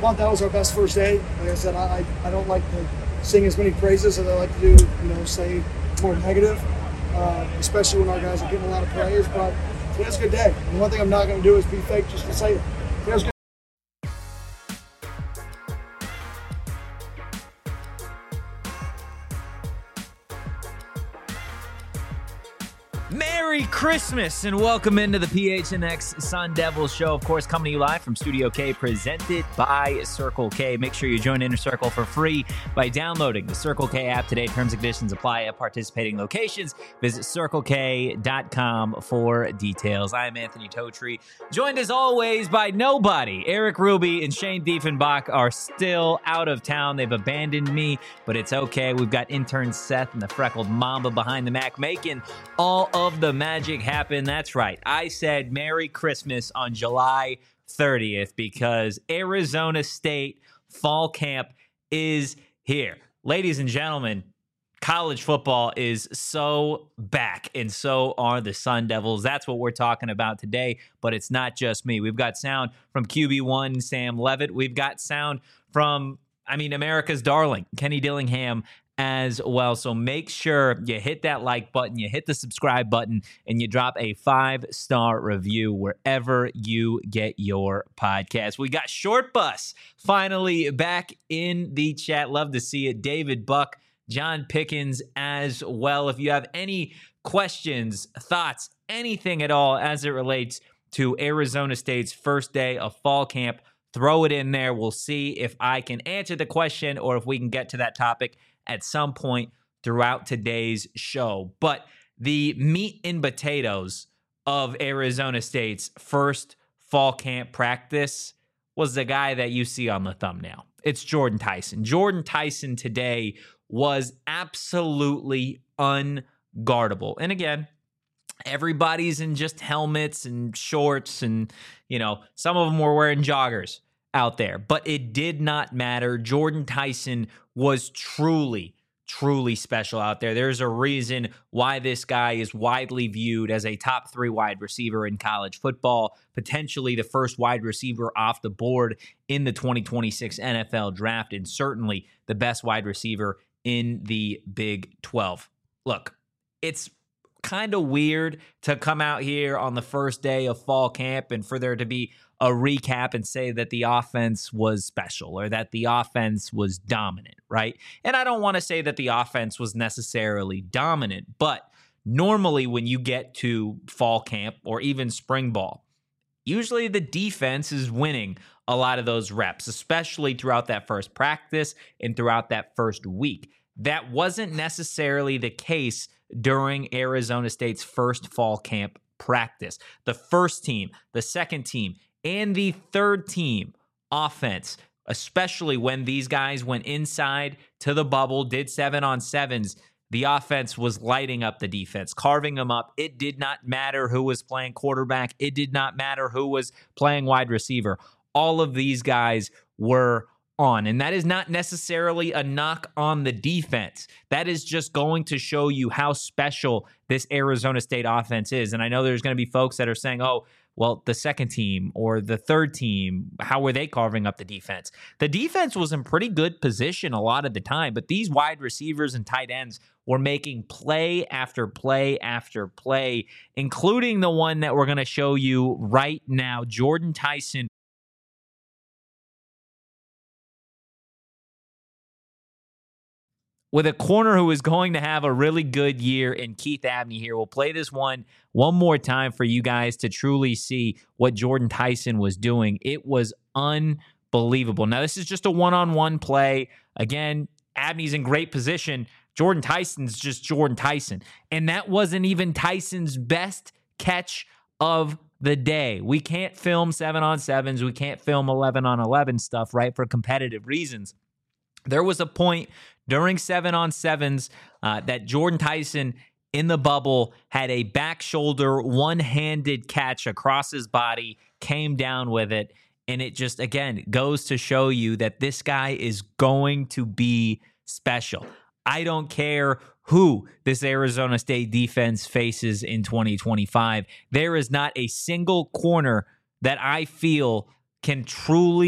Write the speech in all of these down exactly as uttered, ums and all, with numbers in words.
thought that was our best first day. Like I said, I, I don't like to sing as many praises as I like to do, you know, say more negative, uh, especially when our guys are getting a lot of praise. But it was a good day. And one thing I'm not going to do is be fake just to say it. It was good. Merry Christmas and welcome into the P H N X Sun Devils show. Of course, coming to you live from Studio K, presented by Circle K. Make sure you join Inner Circle for free by downloading the Circle K app today. Terms and conditions apply at participating locations. Visit circle k dot com for details. I am Anthony Totri, joined as always by nobody. Eric Ruby and Shane Diefenbach are still out of town. They've abandoned me, but it's okay. We've got intern Seth and the freckled Mamba behind the Mac making all of the magic happen. That's right. I said Merry Christmas on July thirtieth because Arizona State fall camp is here. Ladies and gentlemen, college football is so back, and so are the Sun Devils. That's what we're talking about today, but it's not just me. We've got sound from Q B one, Sam Levitt. We've got sound from, I mean, America's darling, Kenny Dillingham, as well. So make sure you hit that like button, you hit the subscribe button, and you drop a five-star review wherever you get your podcast. We got Short Bus finally back in the chat. Love to see it. David Buck, John Pickens as well. If you have any questions, thoughts, anything at all as it relates to Arizona State's first day of fall camp, throw it in there. We'll see if I can answer the question or if we can get to that topic at some point throughout today's show. But the meat and potatoes of Arizona State's first fall camp practice was the guy that you see on the thumbnail. It's Jordan Tyson. Jordan Tyson today was absolutely unguardable. And again, everybody's in just helmets and shorts, and, you know, some of them were wearing joggers out there, but it did not matter. Jordan Tyson was truly, truly special out there. There's a reason why this guy is widely viewed as a top three wide receiver in college football, potentially the first wide receiver off the board in the twenty twenty-six N F L draft, and certainly the best wide receiver in the Big twelve. Look, it's kind of weird to come out here on the first day of fall camp and for there to be a recap and say that the offense was special or that the offense was dominant, right? And I don't want to say that the offense was necessarily dominant, but normally when you get to fall camp or even spring ball, usually the defense is winning a lot of those reps, especially throughout that first practice and throughout that first week. That wasn't necessarily the case during Arizona State's first fall camp practice. The first team, the second team, and the third team offense, especially when these guys went inside to the bubble, did seven on sevens, the offense was lighting up the defense, carving them up. It did not matter who was playing quarterback. It did not matter who was playing wide receiver. All of these guys were on. And that is not necessarily a knock on the defense. That is just going to show you how special this Arizona State offense is. And I know there's going to be folks that are saying, oh, well, the second team or the third team, how were they carving up the defense? The defense was in pretty good position a lot of the time, but these wide receivers and tight ends were making play after play after play, including the one that we're going to show you right now. Jordan Tyson with a corner who is going to have a really good year in Keith Abney here. We'll play this one one more time for you guys to truly see what Jordan Tyson was doing. It was unbelievable. Now, this is just a one-on-one play. Again, Abney's in great position. Jordan Tyson's just Jordan Tyson. And that wasn't even Tyson's best catch of the day. We can't film seven on sevens. We can't film eleven on eleven stuff, right, for competitive reasons. There was a point during seven on sevens uh, that Jordan Tyson in the bubble had a back shoulder, one-handed catch across his body, came down with it, and it just, again, goes to show you that this guy is going to be special. I don't care who this Arizona State defense faces in twenty twenty-five. There is not a single corner that I feel can truly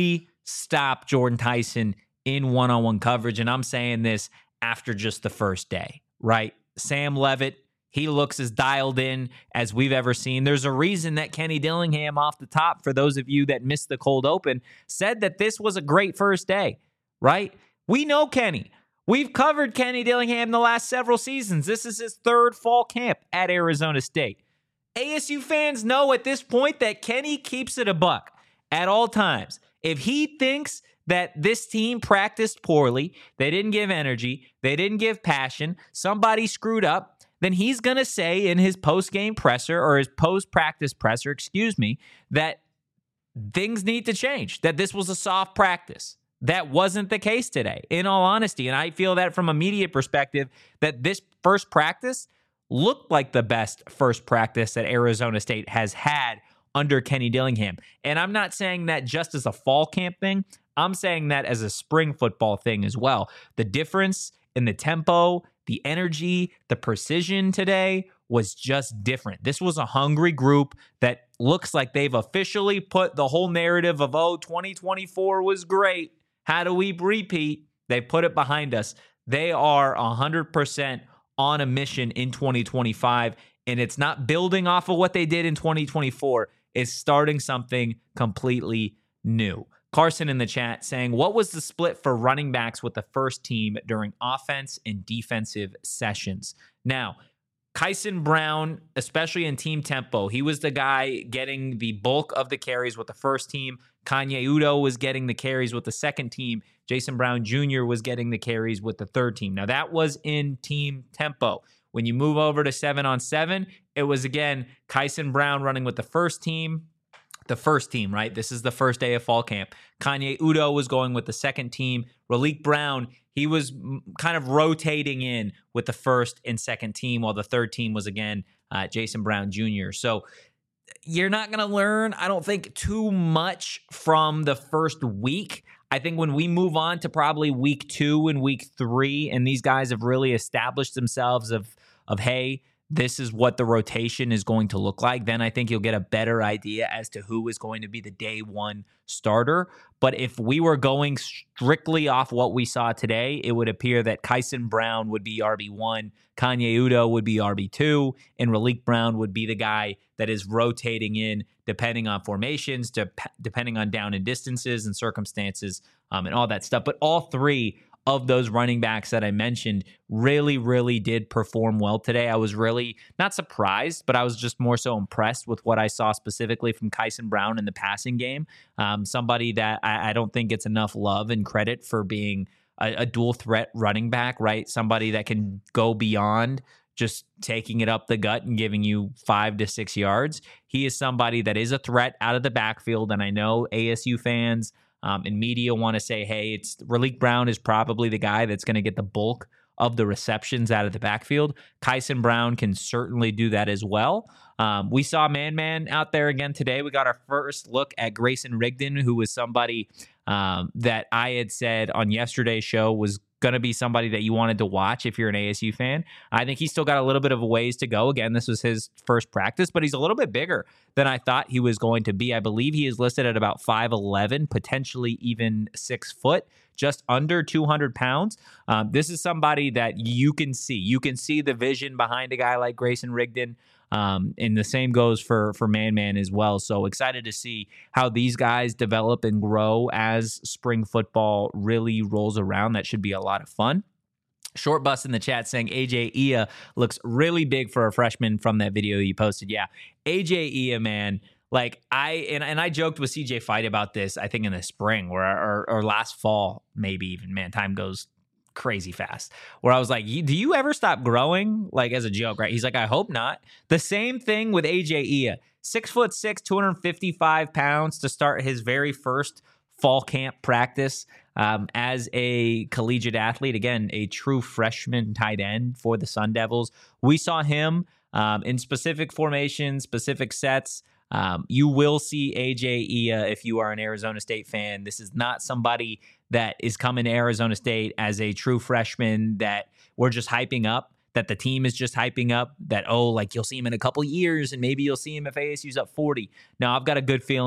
stop Jordan Tyson in one-on-one coverage. And I'm saying this after just the first day, right? Sam Levitt, he looks as dialed in as we've ever seen. There's a reason that Kenny Dillingham off the top, for those of you that missed the cold open, said that this was a great first day, right? We know Kenny. We've covered Kenny Dillingham the last several seasons. This is his third fall camp at Arizona State. A S U fans know at this point that Kenny keeps it a buck at all times. If he thinks that this team practiced poorly, they didn't give energy, they didn't give passion, somebody screwed up, then he's going to say in his post-game presser or his post-practice presser, excuse me, that things need to change, that this was a soft practice. That wasn't the case today, in all honesty. And I feel that from a media perspective, that this first practice looked like the best first practice that Arizona State has had under Kenny Dillingham. And I'm not saying that just as a fall camp thing. I'm saying that as a spring football thing as well. The difference in the tempo, the energy, the precision today was just different. This was a hungry group that looks like they've officially put the whole narrative of, oh, twenty twenty-four was great. How do we repeat? They put it behind us. They are one hundred percent on a mission in twenty twenty-five, and it's not building off of what they did in twenty twenty-four. It's starting something completely new. Carson in the chat saying, what was the split for running backs with the first team during offense and defensive sessions? Now, Kyson Brown, especially in team tempo, he was the guy getting the bulk of the carries with the first team. Kanye Udo was getting the carries with the second team. Jason Brown Junior was getting the carries with the third team. Now, that was in team tempo. When you move over to seven on seven, it was, again, Kyson Brown running with the first team. The first team, right? This is the first day of fall camp. Kanye Udo was going with the second team. Raleek Brown, he was kind of rotating in with the first and second team, while the third team was, again, uh, Jason Brown Junior So you're not going to learn, I don't think, too much from the first week. I think when we move on to probably week two and week three, and these guys have really established themselves of, of hey, this is what the rotation is going to look like, then I think you'll get a better idea as to who is going to be the day one starter. But if we were going strictly off what we saw today, it would appear that Kyson Brown would be R B one, Kanye Udo would be R B two, and Raleek Brown would be the guy that is rotating in depending on formations, de- depending on down and distances and circumstances um, and all that stuff. But all three of those running backs that I mentioned really, really did perform well today. I was really not surprised, but I was just more so impressed with what I saw specifically from Kyson Brown in the passing game. Um, somebody that I, I don't think gets enough love and credit for being a, a dual threat running back, right? Somebody that can go beyond just taking it up the gut and giving you five to six yards. He is somebody that is a threat out of the backfield, and I know A S U fans Um, and media want to say, hey, it's Raleek Brown is probably the guy that's going to get the bulk of the receptions out of the backfield. Kyson Brown can certainly do that as well. Um, we saw Man Man out there again today. We got our first look at Grayson Rigdon, who was somebody um, that I had said on yesterday's show was going to be somebody that you wanted to watch if you're an A S U fan. I think he's still got a little bit of a ways to go. Again, this was his first practice, but he's a little bit bigger than I thought he was going to be. I believe he is listed at about five eleven, potentially even six foot, just under two hundred pounds. Um, this is somebody that you can see. You can see the vision behind a guy like Grayson Rigdon. Um, and the same goes for, for Man Man as well. So excited to see how these guys develop and grow as spring football really rolls around. That should be a lot of fun. Short Bus in the chat saying A J Ia looks really big for a freshman from that video you posted. Yeah, A J Ia, man. Like I and, and I joked with C J Fight about this, I think in the spring or, or or last fall, maybe even. Man, time goes crazy fast, where I was like, do you ever stop growing? Like as a joke, right? He's like, I hope not. The same thing with A J Ia. Six foot six, two hundred fifty-five pounds to start his very first fall camp practice um, as a collegiate athlete. Again, a true freshman tight end for the Sun Devils. We saw him um, in specific formations, specific sets. Um, you will see A J Ia if you are an Arizona State fan. This is not somebody that is coming to Arizona State as a true freshman that we're just hyping up, that the team is just hyping up, that, oh, like you'll see him in a couple years and maybe you'll see him if A S U's up forty. No, I've got a good feeling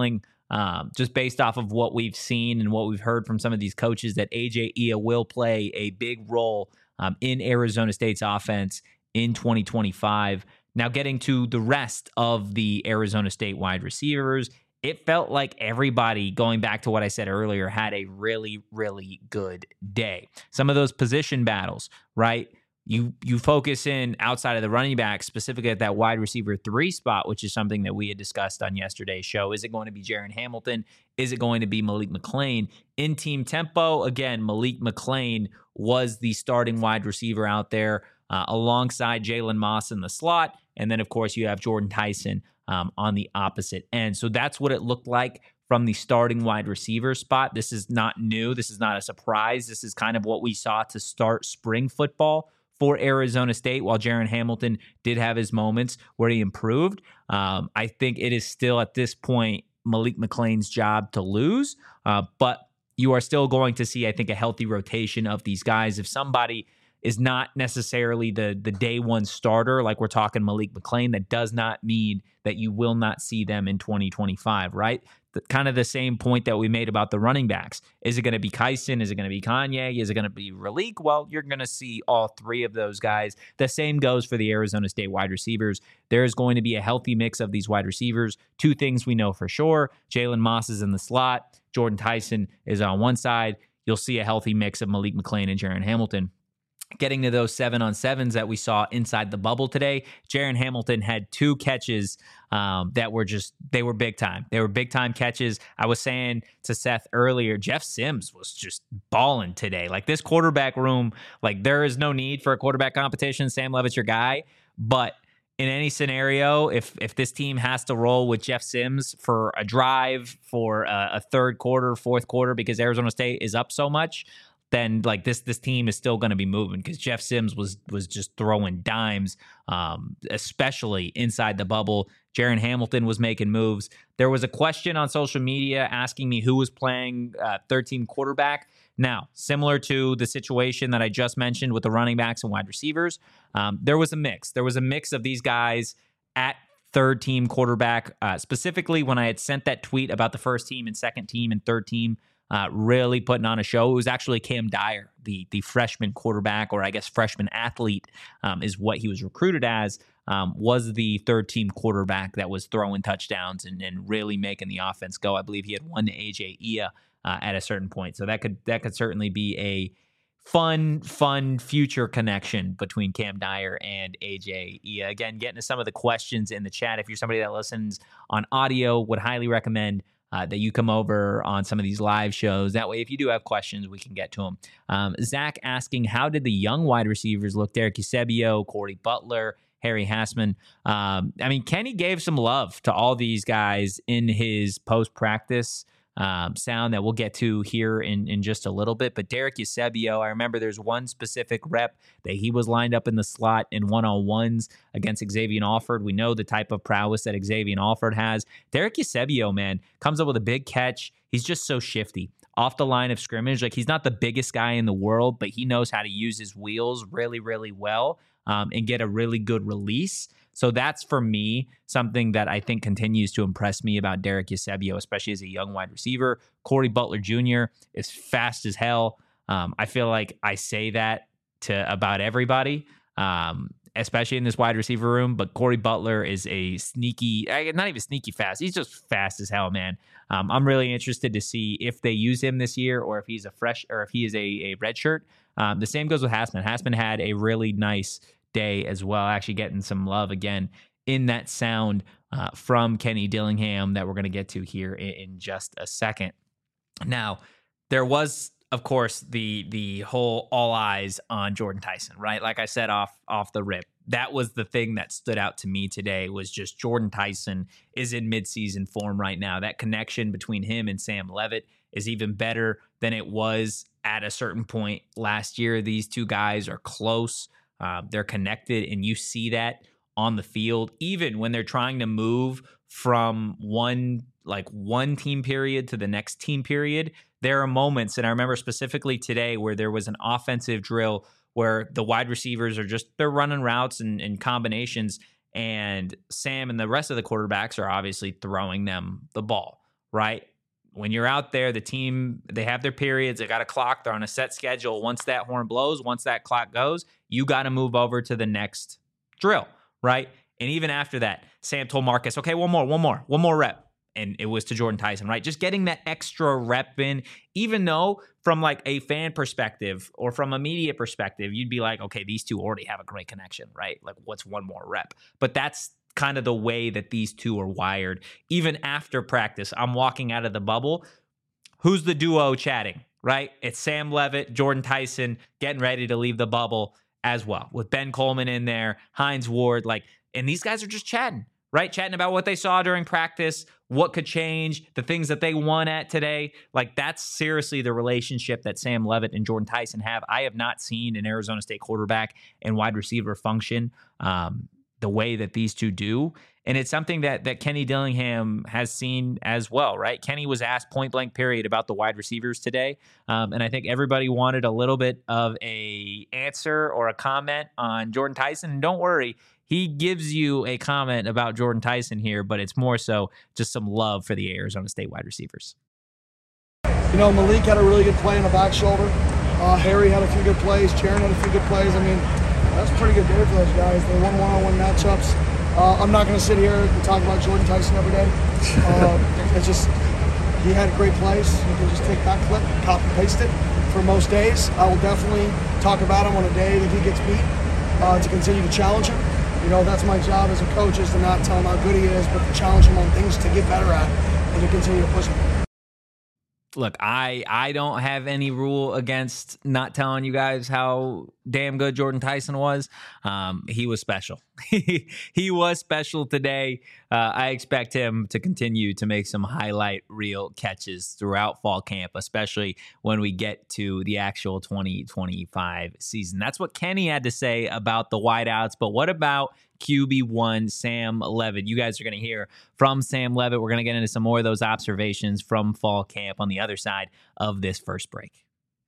um, just based off of what we've seen and what we've heard from some of these coaches, that A J Ia will play a big role um, in Arizona State's offense in twenty twenty-five. Now, getting to the rest of the Arizona State wide receivers, it felt like everybody, going back to what I said earlier, had a really, really good day. Some of those position battles, right? You you focus in outside of the running back, specifically at that wide receiver three spot, which is something that we had discussed on yesterday's show. Is it going to be Jaron Hamilton? Is it going to be Malik McClain? In team tempo, again, Malik McClain was the starting wide receiver out there uh, alongside Jalen Moss in the slot. And then, of course, you have Jordan Tyson um, on the opposite end. So that's what it looked like from the starting wide receiver spot. This is not new. This is not a surprise. This is kind of what we saw to start spring football for Arizona State. While Jaron Hamilton did have his moments where he improved, um, I think it is still at this point Malik McClain's job to lose. Uh, but you are still going to see, I think, a healthy rotation of these guys. If somebody is not necessarily the the day one starter, like we're talking Malik McClain, that does not mean that you will not see them in twenty twenty-five, right? The, kind of the same point that we made about the running backs. Is it going to be Kyson? Is it going to be Kanye? Is it going to be Raleek? Well, you're going to see all three of those guys. The same goes for the Arizona State wide receivers. There is going to be a healthy mix of these wide receivers. Two things we know for sure. Jalen Moss is in the slot. Jordan Tyson is on one side. You'll see a healthy mix of Malik McClain and Jaron Hamilton. Getting to those seven on sevens that we saw inside the bubble today, Jaron Hamilton had two catches um, that were just, they were big time. They were big time catches. I was saying to Seth earlier, Jeff Sims was just balling today. Like this quarterback room, like there is no need for a quarterback competition. Sam Levitt's your guy. But in any scenario, if if this team has to roll with Jeff Sims for a drive, for a, a third quarter, fourth quarter, because Arizona State is up so much, then like this this team is still going to be moving, because Jeff Sims was was just throwing dimes, um, especially inside the bubble. Jaron Hamilton was making moves. There was a question on social media asking me who was playing uh, third-team quarterback. Now, similar to the situation that I just mentioned with the running backs and wide receivers, um, there was a mix. There was a mix of these guys at third-team quarterback, uh, specifically when I had sent that tweet about the first team and second team and third team Uh, really putting on a show. It was actually Cam Dyer, the the freshman quarterback, or I guess freshman athlete, um, is what he was recruited as, um, was the third team quarterback that was throwing touchdowns and, and really making the offense go. I believe he had one to A J Ia uh, at a certain point. So that could that could certainly be a fun, fun future connection between Cam Dyer and A J Ia. Again, getting to some of the questions in the chat. If you're somebody that listens on audio, would highly recommend Uh, that you come over on some of these live shows. That way, if you do have questions, we can get to them. Um, Zach asking, how did the young wide receivers look? Derek Eusebio, Corey Butler, Harry Hassman. Um, I mean, Kenny gave some love to all these guys in his post-practice um, sound that we'll get to here in, in just a little bit. But Derek Eusebio, I remember there's one specific rep that he was lined up in the slot in one-on-ones against Xavier Alford. We know the type of prowess that Xavier Alford has. Derek Eusebio, man, comes up with a big catch. He's just so shifty off the line of scrimmage. Like, he's not the biggest guy in the world, but he knows how to use his wheels really, really well um, and get a really good release. So that's, for me, something that I think continues to impress me about Derek Eusebio, especially as a young wide receiver. Corey Butler Junior is fast as hell. Um, I feel like I say that to about everybody, um, especially in this wide receiver room. But Corey Butler is a sneaky, not even sneaky fast. He's just fast as hell, man. Um, I'm really interested to see if they use him this year, or if he's a fresh, or if he is a, a red shirt. Um, the same goes with Hassman. Hassman had a really nice day as well, actually getting some love again in that sound uh, from Kenny Dillingham that we're going to get to here in, in just a second. Now, there was, of course, the the whole all eyes on Jordan Tyson, right? Like I said off off the rip, that was the thing that stood out to me today, was just Jordan Tyson is in midseason form right now. That connection between him and Sam Levitt is even better than it was at a certain point last year. These two guys are close. Uh, they're connected, and you see that on the field, even when they're trying to move from one like one team period to the next team period. There are moments, and I remember specifically today, where there was an offensive drill where the wide receivers are just, they're running routes and, and combinations, and Sam and the rest of the quarterbacks are obviously throwing them the ball, right? When you're out there, the team, they have their periods, they got a clock, they're on a set schedule. Once that horn blows, once that clock goes, you got to move over to the next drill, right? And even after that, Sam told Marcus, okay, one more, one more, one more rep. And it was to Jordan Tyson, right? Just getting that extra rep in, even though from like a fan perspective or from a media perspective, you'd be like, okay, these two already have a great connection, right? Like, what's one more rep? But that's kind of the way that these two are wired. Even after practice, I'm walking out of the bubble. Who's the duo chatting, right? It's Sam Levitt, Jordan Tyson getting ready to leave the bubble as well, with Ben Coleman in there, Hines Ward, like, and these guys are just chatting, right? Chatting about what they saw during practice, what could change, the things that they won at today. Like, that's seriously the relationship that Sam Levitt and Jordan Tyson have. I have not seen an Arizona State quarterback and wide receiver function um, the way that these two do. And it's something that that Kenny Dillingham has seen as well, right? Kenny was asked point blank period about the wide receivers today. Um, and I think everybody wanted a little bit of a answer or a comment on Jordan Tyson. And don't worry, he gives you a comment about Jordan Tyson here, but it's more so just some love for the Arizona State wide receivers. You know, Malik had a really good play in the back shoulder. Uh, Harry had a few good plays. Jaron had a few good plays. I mean, that's a pretty good day for those guys. They won one-on-one matchups. Uh, I'm not going to sit here and talk about Jordan Tyson every day. Uh, it's just, he had great plays. You can just take that clip, copy paste it for most days. I will definitely talk about him on a day that he gets beat uh, to continue to challenge him. You know, that's my job as a coach, is to not tell him how good he is, but to challenge him on things to get better at and to continue to push him. Look, I I don't have any rule against not telling you guys how damn good Jordan Tyson was. Um, he was special. He was special today. Uh, I expect him to continue to make some highlight reel catches throughout fall camp, especially when we get to the actual twenty twenty-five season. That's what Kenny had to say about the wideouts. But what about Q B one Sam Levitt? You guys are going to hear from Sam Levitt. We're going to get into some more of those observations from fall camp on the other side of this first break.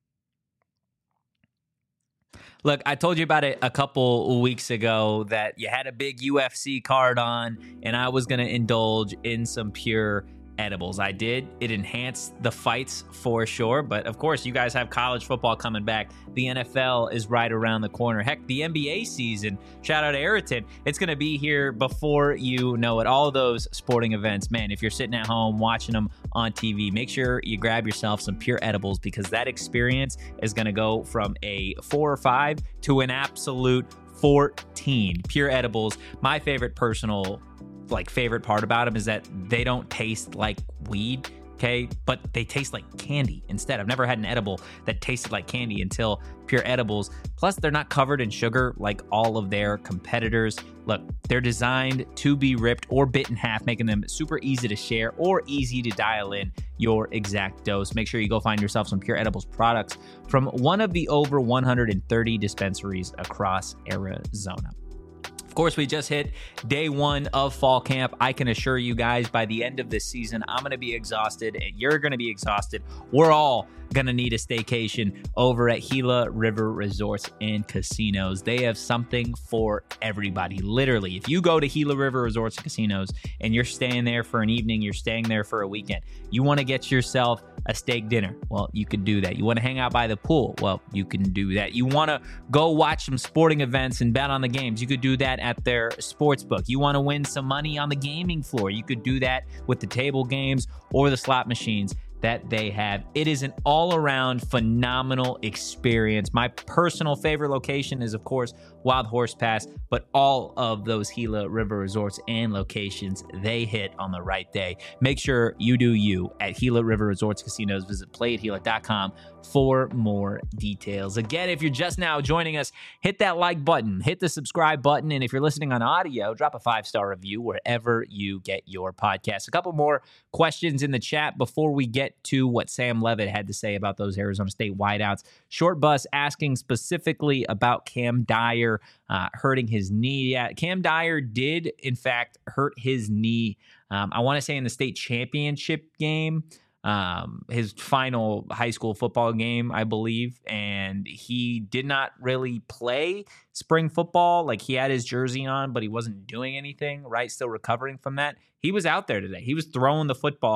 Look, I told you about it a couple weeks ago that you had a big U F C card on, and I was going to indulge in some pure edibles. I did. It enhanced the fights for sure. But of course, you guys have college football coming back. The N F L is right around the corner. Heck, the N B A season, shout out to Ayrton, it's going to be here before you know it. All those sporting events, man, if you're sitting at home watching them on T V, make sure you grab yourself some pure edibles, because that experience is going to go from a four or five to an absolute fourteen. Pure edibles, my favorite personal like favorite part about them is that they don't taste like weed, okay, but they taste like candy instead. I've never had an edible that tasted like candy until Pure Edibles. Plus, they're not covered in sugar like all of their competitors. Look, they're designed to be ripped or bit in half, making them super easy to share or easy to dial in your exact dose. Make sure you go find yourself some Pure Edibles products from one of the over one hundred thirty dispensaries across Arizona. Of course, we just hit day one of fall camp. I can assure you guys, by the end of this season, I'm going to be exhausted, and you're going to be exhausted. We're all going to need a staycation over at Gila River Resorts and Casinos. They have something for everybody. Literally, if you go to Gila River Resorts and Casinos and you're staying there for an evening, you're staying there for a weekend, you want to get yourself a steak dinner, well, you could do that. You want to hang out by the pool, well, you can do that. You want to go watch some sporting events and bet on the games, you could do that at their sports book. You want to win some money on the gaming floor, you could do that with the table games or the slot machines that they have. It is an all-around phenomenal experience. My personal favorite location is, of course, Wild Horse Pass, but all of those Gila River resorts and locations, they hit on the right day. Make sure you do you at Gila River Resorts Casinos. Visit play at gila dot com for more details. Again, if you're just now joining us, hit that like button, hit the subscribe button, and if you're listening on audio, drop a five-star review wherever you get your podcast. A couple more questions in the chat before we get to what Sam Levitt had to say about those Arizona State wideouts. Short Bus asking specifically about Cam Dyer uh, hurting his knee. Yeah, Cam Dyer did, in fact, hurt his knee. Um, I want to say in the state championship game, um, his final high school football game, I believe, and he did not really play spring football. Like, he had his jersey on, but he wasn't doing anything, right? Still recovering from that. He was out there today. He was throwing the football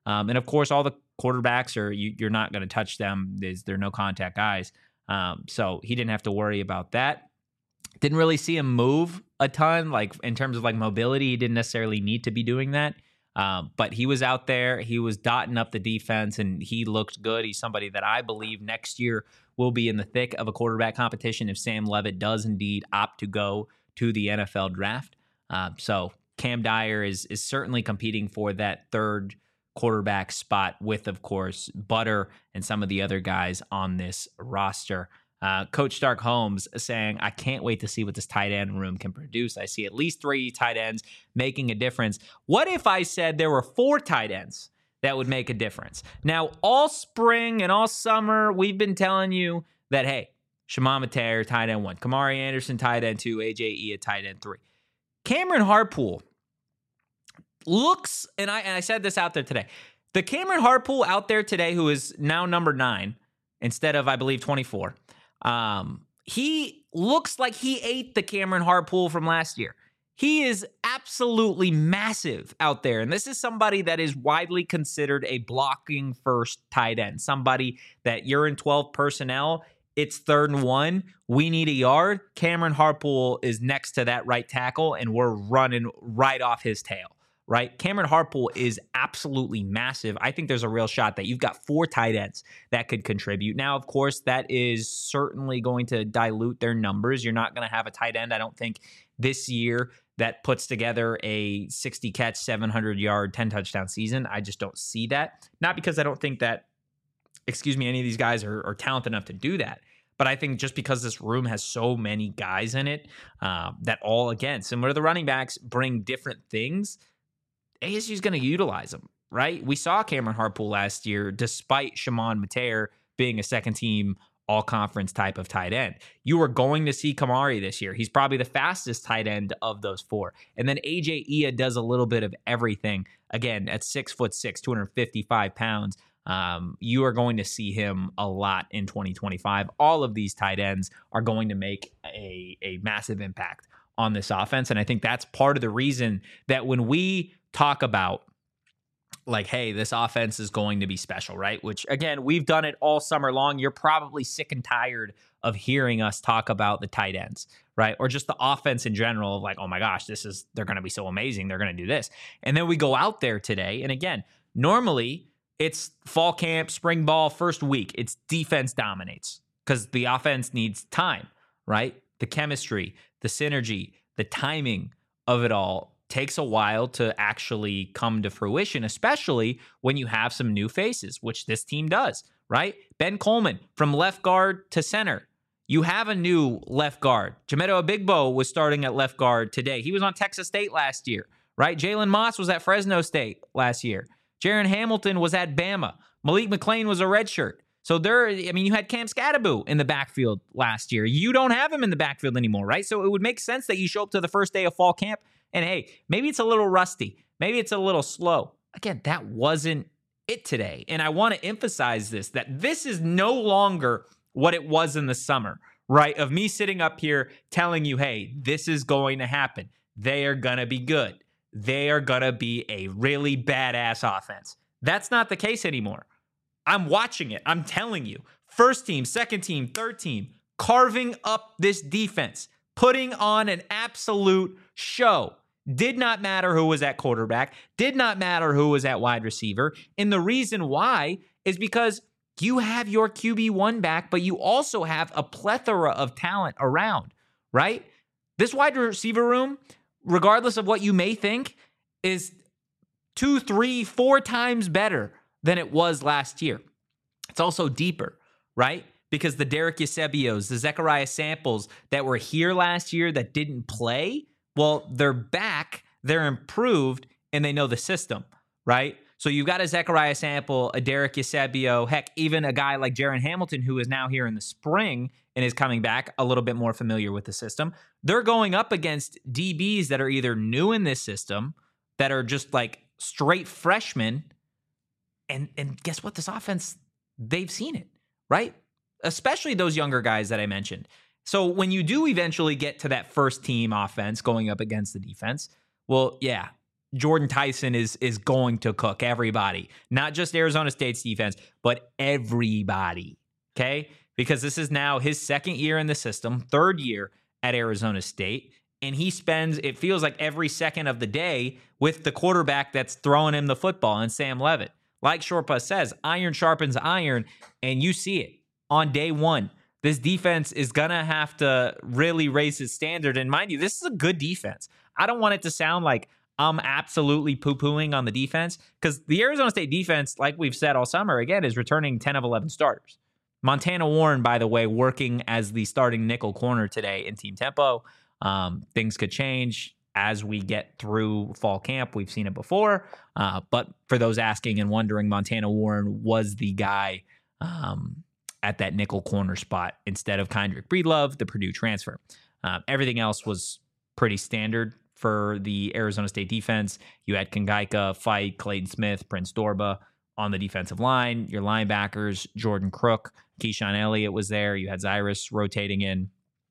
Um, and of course, all the quarterbacks are you, you're not going to touch them. There's they're no contact guys, um, so he didn't have to worry about that. Didn't really see him move a ton, like in terms of like mobility. He didn't necessarily need to be doing that, um, but he was out there. He was dotting up the defense, and he looked good. He's somebody that I believe next year will be in the thick of a quarterback competition if Sam Leavitt does indeed opt to go to the N F L draft. Uh, so Cam Dyer is is certainly competing for that third quarterback spot with, of course, Butter and some of the other guys on this roster. Uh, Coach Stark Holmes saying, I can't wait to see what this tight end room can produce. I see at least three tight ends making a difference. What if I said there were four tight ends that would make a difference? Now, all spring and all summer, we've been telling you that, hey, Shimon Mateer, tight end one, Kamari Anderson, tight end two, A J Ia, tight end three. Cameron Harpool looks, and I, and I said this out there today, the Cameron Harpool out there today, who is now number nine instead of, I believe, twenty-four, um, he looks like he ate the Cameron Harpool from last year. He is absolutely massive out there, and this is somebody that is widely considered a blocking first tight end, somebody that you're in twelve personnel, it's third and one, we need a yard. Cameron Harpool is next to that right tackle, and we're running right off his tail. Right? Cameron Harpool is absolutely massive. I think there's a real shot that you've got four tight ends that could contribute. Now, of course, that is certainly going to dilute their numbers. You're not going to have a tight end, I don't think, this year that puts together a sixty catch, seven hundred yard, ten touchdown season. I just don't see that. Not because I don't think that, excuse me, any of these guys are, are talented enough to do that. But I think just because this room has so many guys in it uh, that all, again, similar to the running backs, bring different things, A S U is going to utilize them, right? We saw Cameron Harpool last year, despite Shimon Mateer being a second-team all-conference type of tight end. You are going to see Kamari this year. He's probably the fastest tight end of those four. And then A J Ia does a little bit of everything. Again, at six foot six, two hundred fifty-five pounds, um, you are going to see him a lot in twenty twenty-five. All of these tight ends are going to make a, a massive impact on this offense. And I think that's part of the reason that when we talk about like, hey, this offense is going to be special, right? Which, again, we've done it all summer long. You're probably sick and tired of hearing us talk about the tight ends, right? Or just the offense in general of like, oh my gosh, this is, they're going to be so amazing. They're going to do this. And then we go out there today. And again, normally it's fall camp, spring ball, first week. It's defense dominates because the offense needs time, right? The chemistry, the synergy, the timing of it all takes a while to actually come to fruition, especially when you have some new faces, which this team does, right? Ben Coleman from left guard to center. You have a new left guard. Jamedo Abigbo was starting at left guard today. He was on Texas State last year, right? Jalen Moss was at Fresno State last year. Jaron Hamilton was at Bama. Malik McClain was a redshirt. So there, I mean, you had Cam Scadaboo in the backfield last year. You don't have him in the backfield anymore, right? So it would make sense that you show up to the first day of fall camp and, hey, maybe it's a little rusty. Maybe it's a little slow. Again, that wasn't it today. And I want to emphasize this, that this is no longer what it was in the summer, right? Of me sitting up here telling you, hey, this is going to happen. They are going to be good. They are going to be a really badass offense. That's not the case anymore. I'm watching it. I'm telling you. First team, second team, third team, carving up this defense, putting on an absolute show. Did not matter who was at quarterback. Did not matter who was at wide receiver. And the reason why is because you have your Q B one back, but you also have a plethora of talent around, right? This wide receiver room, regardless of what you may think, is two, three, four times better than it was last year. It's also deeper, right? Because the Derek Eusebios, the Zechariah Samples that were here last year that didn't play, well, they're back, they're improved, and they know the system, right? So you've got a Zechariah Sample, a Derek Eusebio, heck, even a guy like Jaron Hamilton, who is now here in the spring and is coming back a little bit more familiar with the system. They're going up against D Bs that are either new in this system, that are just like straight freshmen, and and guess what? This offense, they've seen it, right? Especially those younger guys that I mentioned. So when you do eventually get to that first team offense going up against the defense, well, yeah, Jordan Tyson is is going to cook everybody, not just Arizona State's defense, but everybody. Okay, because this is now his second year in the system, third year at Arizona State, and he spends, it feels like, every second of the day with the quarterback that's throwing him the football, and Sam Leavitt. Like Shortbus says, iron sharpens iron, and you see it on day one. This defense is going to have to really raise its standard, and mind you, this is a good defense. I don't want it to sound like I'm absolutely poo-pooing on the defense, because the Arizona State defense, like we've said all summer, again, is returning ten of eleven starters. Montana Warren, by the way, working as the starting nickel corner today in team tempo. Um, things could change as we get through fall camp. We've seen it before. Uh, but for those asking and wondering, Montana Warren was the guy um, at that nickel corner spot instead of Kendrick Breedlove, the Purdue transfer. Uh, everything else was pretty standard for the Arizona State defense. You had Kangaika, Fight, Clayton Smith, Prince Dorba on the defensive line. Your linebackers, Jordan Crook, Keyshawn Elliott was there. You had Zyrus rotating in.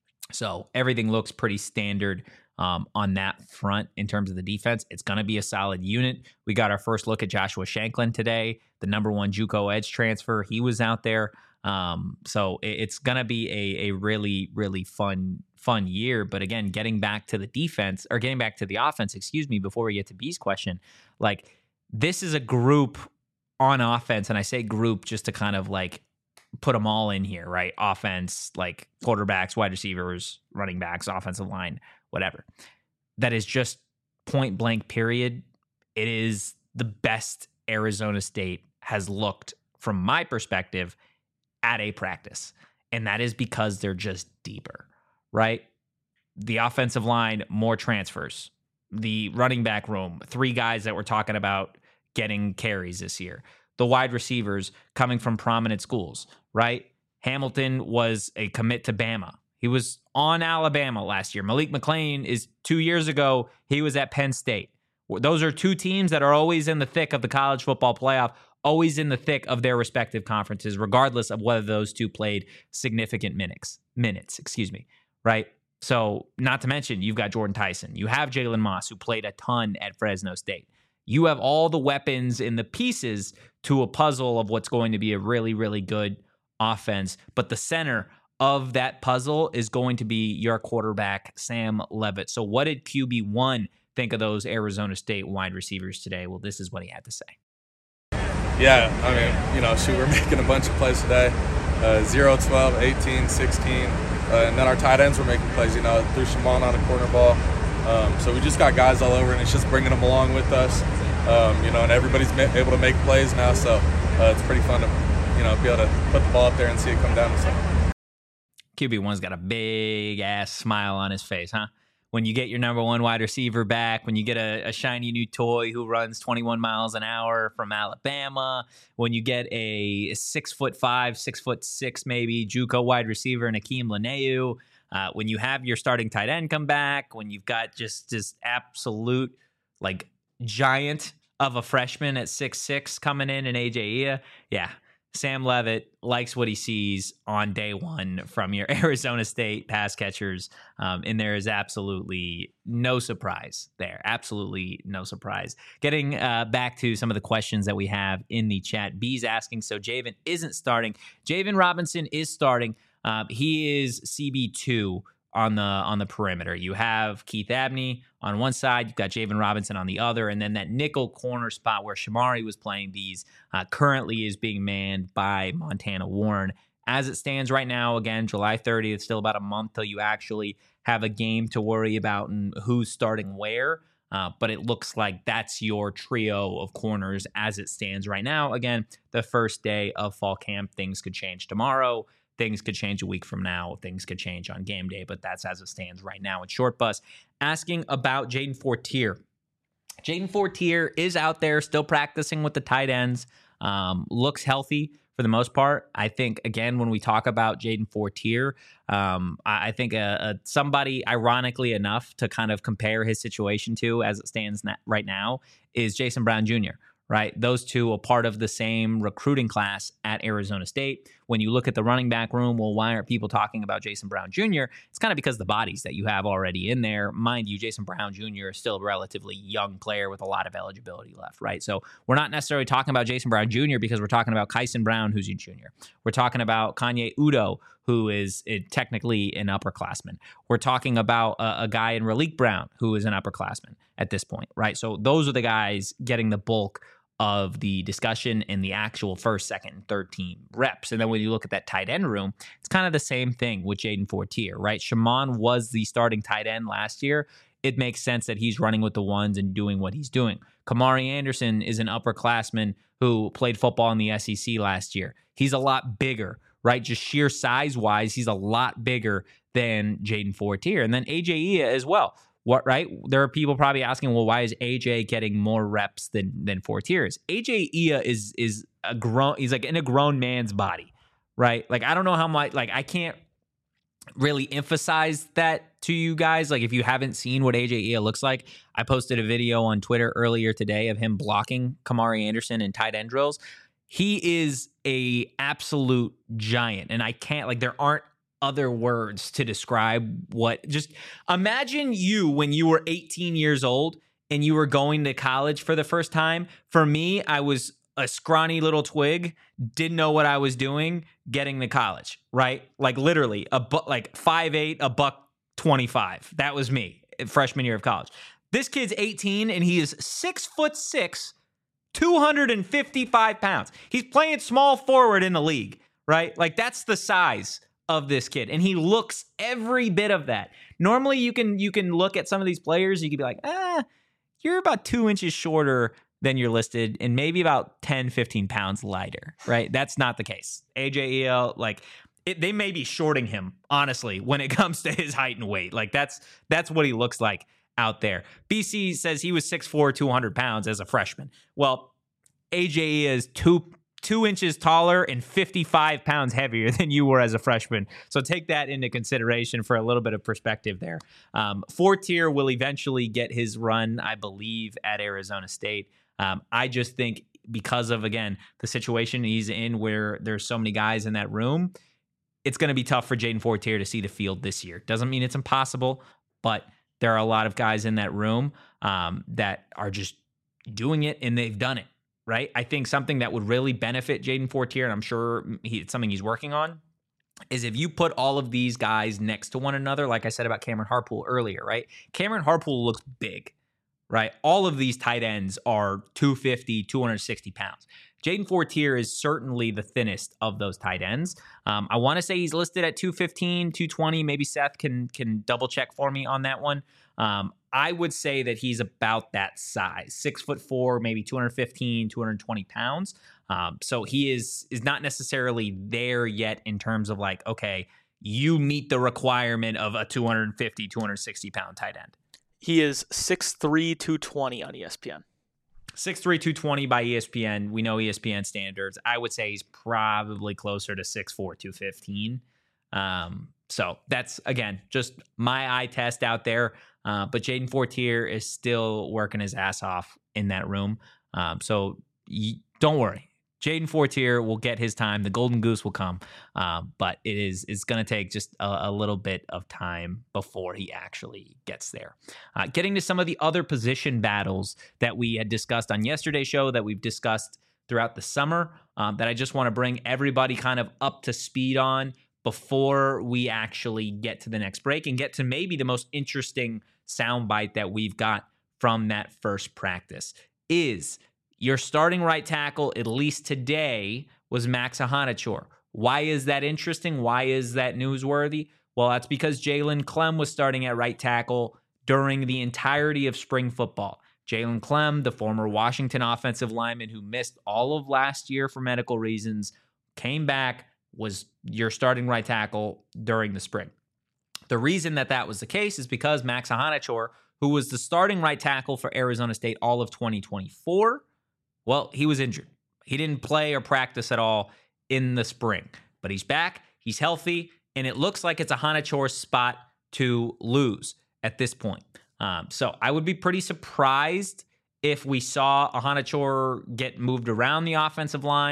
So everything looks pretty standard um, on that front in terms of the defense. It's going to be a solid unit. We got our first look at Joshua Shanklin today, the number one JUCO edge transfer. He was out there. Um, so it, it's going to be a, a really, really fun, fun year. But again, getting back to the defense or getting back to the offense, excuse me, before we get to B's question, like this is a group on offense. And I say group just to kind of like put them all in here, right? Offense, like quarterbacks, wide receivers, running backs, offensive line, whatever. That is just point blank period. It is the best Arizona State has looked from my perspective at a practice. And that is because they're just deeper, right? The offensive line, more transfers. The running back room, three guys that we're talking about getting carries this year. The wide receivers coming from prominent schools, right? Hamilton was a commit to Bama. He was on Alabama last year. Malik McClain is two years ago. He was at Penn State. Those are two teams that are always in the thick of the college football playoff, always in the thick of their respective conferences, regardless of whether those two played significant minutes, minutes, excuse me, right? So not to mention, you've got Jordan Tyson. You have Jalen Moss, who played a ton at Fresno State. You have all the weapons and the pieces to a puzzle of what's going to be a really, really good offense. But the center of that puzzle is going to be your quarterback, Sam Leavitt. So what did Q B one think of those Arizona State wide receivers today? Well, this is what he had to say. Yeah, I mean, you know, shoot, we're making a bunch of plays today. Uh, zero, twelve, eighteen, sixteen. Uh, and then our tight ends were making plays, you know, threw Shimon on a corner ball. Um, so we just got guys all over, and it's just bringing them along with us. Um, you know, and everybody's ma- able to make plays now, so uh, it's pretty fun to, you know, be able to put the ball up there and see it come down to something. Q B one's got a big-ass smile on his face, huh? When you get your number one wide receiver back, when you get a, a shiny new toy who runs twenty-one miles an hour from Alabama, when you get a six foot five, six foot six maybe JUCO wide receiver and Akeem Lineu, uh, when you have your starting tight end come back, when you've got just just absolute like giant of a freshman at six six coming in and A J Ia, yeah. Sam Leavitt likes what he sees on day one from your Arizona State pass catchers, um, and there is absolutely no surprise there. Absolutely no surprise. Getting uh, back to some of the questions that we have in the chat. B's asking, so Javen isn't starting. Javen Robinson is starting. Uh, he is C B two on the on the perimeter. You have Keith Abney on one side, you've got Javen Robinson on the other, and then that nickel corner spot where Shamari was playing these uh, currently is being manned by Montana Warren. As it stands right now, again, July thirtieth, still about a month till you actually have a game to worry about and who's starting where. Uh, but it looks like that's your trio of corners as it stands right now. Again, the first day of fall camp, things could change tomorrow. Things could change a week from now. Things could change on game day, but that's as it stands right now. It's Short Bus asking about Jaden Fortier. Jaden Fortier is out there still practicing with the tight ends. Um, looks healthy for the most part. I think, again, when we talk about Jaden Fortier, um, I, I think uh, uh, somebody, ironically enough, to kind of compare his situation to as it stands na- right now is Jason Brown Junior Right? Those two are part of the same recruiting class at Arizona State. when you look at the running back room, well, why aren't people talking about Jason Brown Junior? It's kind of because the bodies that you have already in there. Mind you, Jason Brown Junior is still a relatively young player with a lot of eligibility left, right? So we're not necessarily talking about Jason Brown Junior because we're talking about Kyson Brown, who's a junior. We're talking about Kanye Udo, who is uh, technically an upperclassman. We're talking about a, a guy in Raleek Brown, who is an upperclassman at this point, right? So those are the guys getting the bulk of the discussion in the actual first, second, and third team reps. And then when you look at that tight end room, it's kind of the same thing with Jaden Fortier, right? Shimon was the starting tight end last year. It makes sense that he's running with the ones and doing what he's doing. Kamari Anderson is an upperclassman who played football in the S E C last year. He's a lot bigger, right? Just sheer size-wise, he's a lot bigger than Jaden Fortier. And then A J Ia as well. What, right? There are people probably asking, well, why is A J getting more reps than than Fortier is? A J Ia is is a grown, he's like in a grown man's body, right? Like, I don't know how much, like, I can't really emphasize that to you guys. Like, if you haven't seen what A J Ia looks like, I posted a video on Twitter earlier today of him blocking Kamari Anderson in tight end drills. He is a absolute giant, and I can't, like, there aren't other words to describe what, just imagine you when you were eighteen years old and you were going to college for the first time. For me, I was a scrawny little twig, didn't know what I was doing getting to college, right? Like literally a bu- like five eight, a buck twenty-five. That was me freshman year of college. This kid's eighteen and he is six foot six, two hundred fifty-five pounds. He's playing small forward in the league, right? Like, that's the size of this kid, and he looks every bit of that. Normally, you can you can look at some of these players, you could be like, ah, you're about two inches shorter than you're listed, and maybe about ten, fifteen pounds lighter, right? That's not the case. A J E L, like, it, they may be shorting him, honestly, when it comes to his height and weight. Like, that's that's what he looks like out there. B C says he was six foot four, two hundred pounds as a freshman. Well, A J E is two two inches taller and fifty-five pounds heavier than you were as a freshman. So take that into consideration for a little bit of perspective there. Um, Fortier will eventually get his run, I believe, at Arizona State. Um, I just think because of, again, the situation he's in where there's so many guys in that room, it's going to be tough for Jaden Fortier to see the field this year. Doesn't mean it's impossible, but there are a lot of guys in that room um, that are just doing it, and they've done it. Right? I think something that would really benefit Jaden Fortier, and I'm sure he, it's something he's working on, is if you put all of these guys next to one another, like I said about Cameron Harpool earlier, right? Cameron Harpool looks big, right? All of these tight ends are two fifty, two sixty pounds. Jaden Fortier is certainly the thinnest of those tight ends. Um, I want to say he's listed at two fifteen, two twenty. Maybe Seth can can double check for me on that one. Um, I would say that he's about that size, six foot four, maybe two fifteen, two twenty pounds. Um, so he is is not necessarily there yet in terms of like, okay, you meet the requirement of a two fifty, two sixty pound tight end. He is six three, two twenty on E S P N. six three, two twenty by E S P N. We know E S P N standards. I would say he's probably closer to six four, two fifteen. Um, so that's, again, just my eye test out there. Uh, but Jaden Fortier is still working his ass off in that room. Um, so y- don't worry. Jaden Fortier will get his time. The golden goose will come. Um, but it is it's going to take just a, a little bit of time before he actually gets there. Uh, getting to some of the other position battles that we had discussed on yesterday's show, that we've discussed throughout the summer, um, that I just want to bring everybody kind of up to speed on before we actually get to the next break and get to maybe the most interesting soundbite that we've got from that first practice is your starting right tackle, at least today, was Max Ahanachor. Why is that interesting? Why is that newsworthy? Well, that's because Jalen Clem was starting at right tackle during the entirety of spring football. Jalen Clem, the former Washington offensive lineman who missed all of last year for medical reasons, came back, was your starting right tackle during the spring. The reason that that was the case is because Max Ahanachor, who was the starting right tackle for Arizona State all of twenty twenty-four, well, he was injured. He didn't play or practice at all in the spring, but he's back, he's healthy, and it looks like it's Ahanachor's spot to lose at this point. Um, so I would be pretty surprised if we saw Ahanachor get moved around the offensive line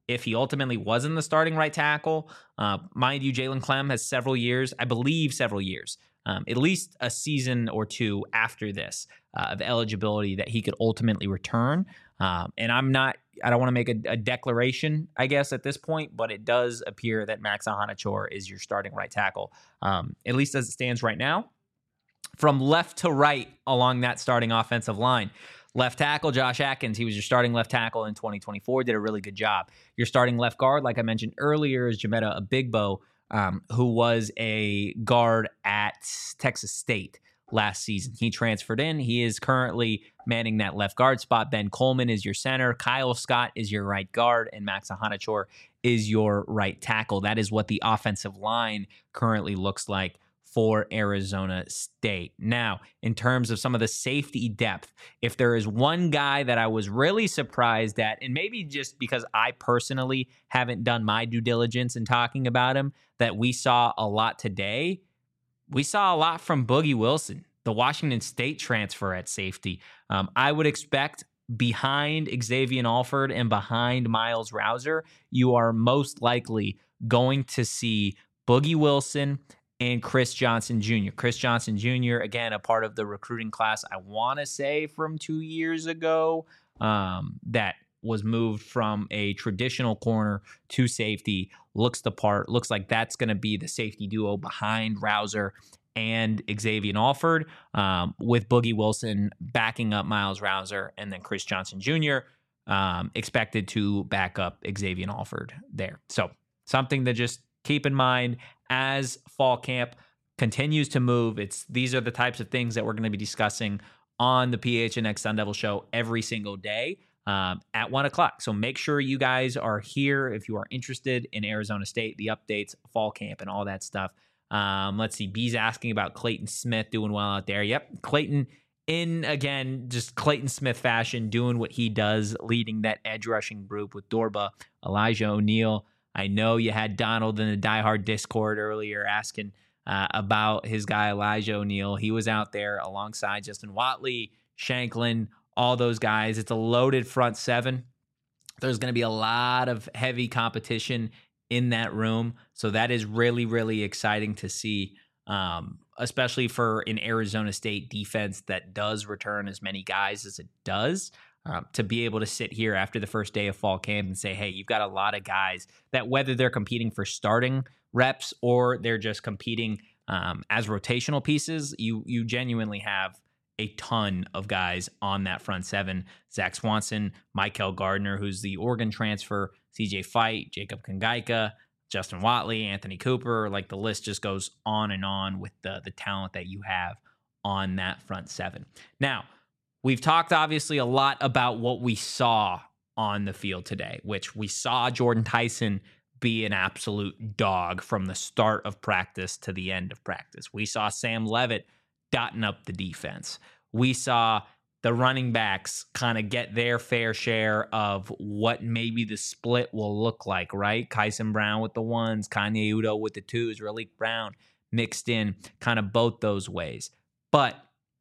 if he ultimately wasn't the starting right tackle. Uh, mind you, Jalen Clem has several years, I believe several years, um, at least a season or two after this uh, of eligibility that he could ultimately return. Um, and I'm not, I don't want to make a, a declaration, I guess, at this point, but it does appear that Max Ahanachour is your starting right tackle, um, at least as it stands right now. From left to right along that starting offensive line. Left tackle, Josh Atkins, he was your starting left tackle in twenty twenty-four, did a really good job. Your starting left guard, like I mentioned earlier, is Jametta Abigbo, um, who was a guard at Texas State last season. He transferred in. He is currently manning that left guard spot. Ben Coleman is your center. Kyle Scott is your right guard, and Max Ahanachour is your right tackle. That is what the offensive line currently looks like for Arizona State. Now, in terms of some of the safety depth, if there is one guy that I was really surprised at, and maybe just because I personally haven't done my due diligence in talking about him, that we saw a lot today, we saw a lot from Boogie Wilson, the Washington State transfer at safety. Um, I would expect behind Xavier Alford and behind Miles Rouser, you are most likely going to see Boogie Wilson and Chris Johnson Junior Chris Johnson Junior, again, a part of the recruiting class, I want to say from two years ago, um, that was moved from a traditional corner to safety. Looks the part, looks like that's going to be the safety duo behind Rouser and Xavier Alford, um, with Boogie Wilson backing up Miles Rouser, and then Chris Johnson Junior um, expected to back up Xavier Alford there. So something to just keep in mind as fall camp continues to move. It's these are the types of things that we're going to be discussing on the P H N X Sun Devil Show every single day um, at one o'clock. So make sure you guys are here if you are interested in Arizona State, the updates, fall camp, and all that stuff. Um, let's see. B's asking about Clayton Smith doing well out there. Yep, Clayton in, again, just Clayton Smith fashion, doing what he does, leading that edge rushing group with Dorba, Elijah O'Neal. I know you had Donald in the Die Hard Discord earlier asking uh, about his guy Elijah O'Neal. He was out there alongside Justin Watley, Shanklin, all those guys. It's a loaded front seven. There's going to be a lot of heavy competition in that room. So that is really, really exciting to see, um, especially for an Arizona State defense that does return as many guys as it does. Um, to be able to sit here after the first day of fall camp and say, hey, you've got a lot of guys that whether they're competing for starting reps or they're just competing um, as rotational pieces, you you genuinely have a ton of guys on that front seven. Zach Swanson, Michael Gardner, who's the Oregon transfer, C J Fight, Jacob Kangaika, Justin Watley, Anthony Cooper, like the list just goes on and on with the, the talent that you have on that front seven. Now, we've talked obviously a lot about what we saw on the field today, which we saw Jordan Tyson be an absolute dog from the start of practice to the end of practice. We saw Sam Levitt dotting up the defense. We saw the running backs kind of get their fair share of what maybe the split will look like, right? Kyson Brown with the ones, Kanye Udo with the twos, Raleek Brown mixed in kind of both those ways. But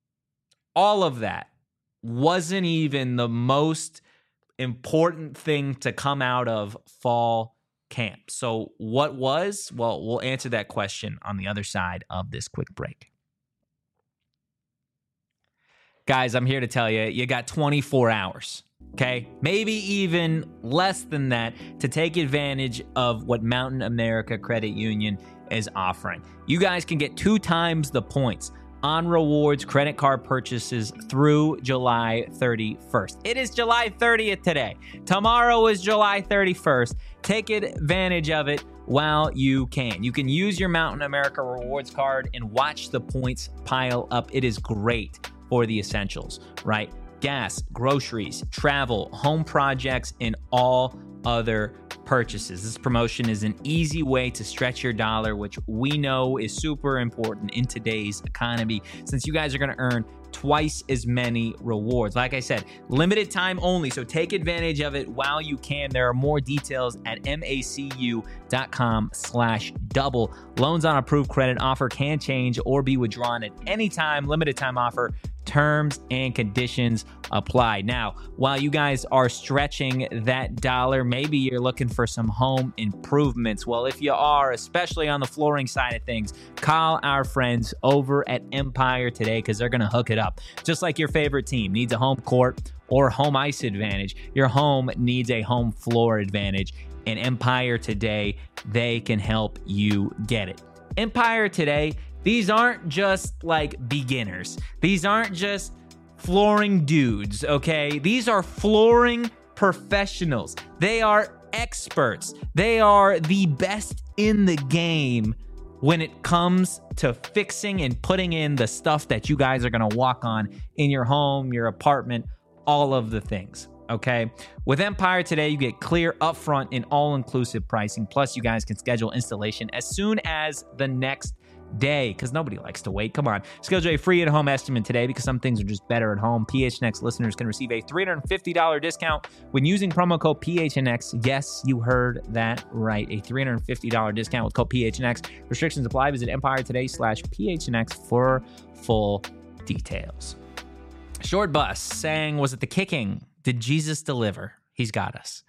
all of that wasn't even the most important thing to come out of fall camp. So what was? Well, we'll answer that question on the other side of this quick break. Guys, I'm here to tell you, you got twenty-four hours, okay? Maybe even less than that to take advantage of what Mountain America Credit Union is offering. You guys can get two times the points on rewards credit card purchases through July thirty-first. It is July thirtieth today. Tomorrow is July thirty-first. Take advantage of it while you can. You can use your Mountain America Rewards card and watch the points pile up. It is great for the essentials, right? Gas, groceries, travel, home projects, and all other purchases. This promotion is an easy way to stretch your dollar, which we know is super important in today's economy, since you guys are going to earn twice as many rewards. Like I said, limited time only, so take advantage of it while you can. There are more details at macu.com slash double. Loans on approved credit offer can change or be withdrawn at any time. Limited time offer. Terms and conditions apply. Now, while you guys are stretching that dollar, maybe you're looking for some home improvements. Well, if you are, especially on the flooring side of things, call our friends over at Empire today because they're going to hook it up. Just like your favorite team needs a home court or home ice advantage, your home needs a home floor advantage. And Empire Today, they can help you get it. Empire Today, these aren't just like beginners. These aren't just flooring dudes, okay? These are flooring professionals. They are experts. They are the best in the game when it comes to fixing and putting in the stuff that you guys are going to walk on in your home, your apartment, all of the things. Okay. With Empire Today, you get clear, upfront, and all-inclusive pricing. Plus, you guys can schedule installation as soon as the next day because nobody likes to wait. Come on. Schedule a free at-home estimate today because some things are just better at home. P H N X listeners can receive a three hundred fifty dollars discount when using promo code P H N X. Yes, you heard that right. A three hundred fifty dollars discount with code P H N X. Restrictions apply. Visit Empire Today slash P H N X for full details. Short Bus saying, was it the kicking? Did Jesus deliver? He's got us.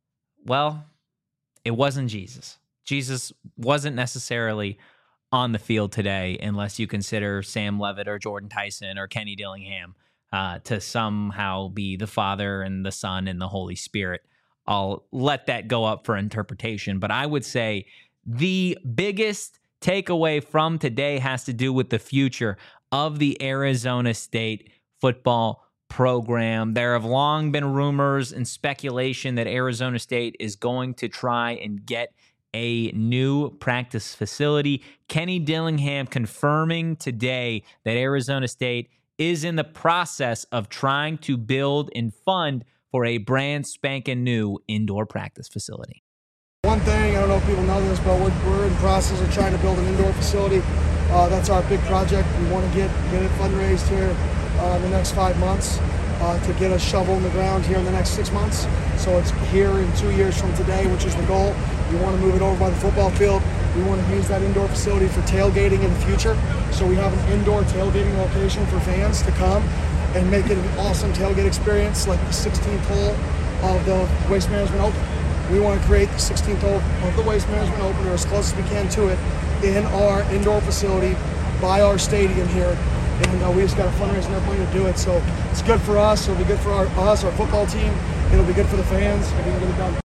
Well, it wasn't Jesus. Jesus wasn't necessarily on the field today unless you consider Sam Levitt or Jordan Tyson or Kenny Dillingham uh, to somehow be the Father and the Son and the Holy Spirit. I'll let that go up for interpretation. But I would say the biggest takeaway from today has to do with the future of the Arizona State football program. There have long been rumors and speculation that Arizona State is going to try and get a new practice facility. Kenny Dillingham confirming today that Arizona State is in the process of trying to build and fund for a brand spanking new indoor practice facility. One thing, I don't know if people know this, but we're, we're in the process of trying to build an indoor facility. Uh, that's our big project. We want to get, get it fundraised here Uh, in the next five months uh, to get a shovel in the ground here in the next six months. So it's here in two years from today, which is the goal. We want to move it over by the football field. We want to use that indoor facility for tailgating in the future. So we have an indoor tailgating location for fans to come and make it an awesome tailgate experience like the sixteenth hole of the Waste Management Open. We want to create the sixteenth hole of the Waste Management Open or as close as we can to it in our indoor facility by our stadium here. And uh, we just got to fundraise enough money to do it. So it's good for us. It'll be good for our, us, our football team. It'll be good for the fans. If we can get it done.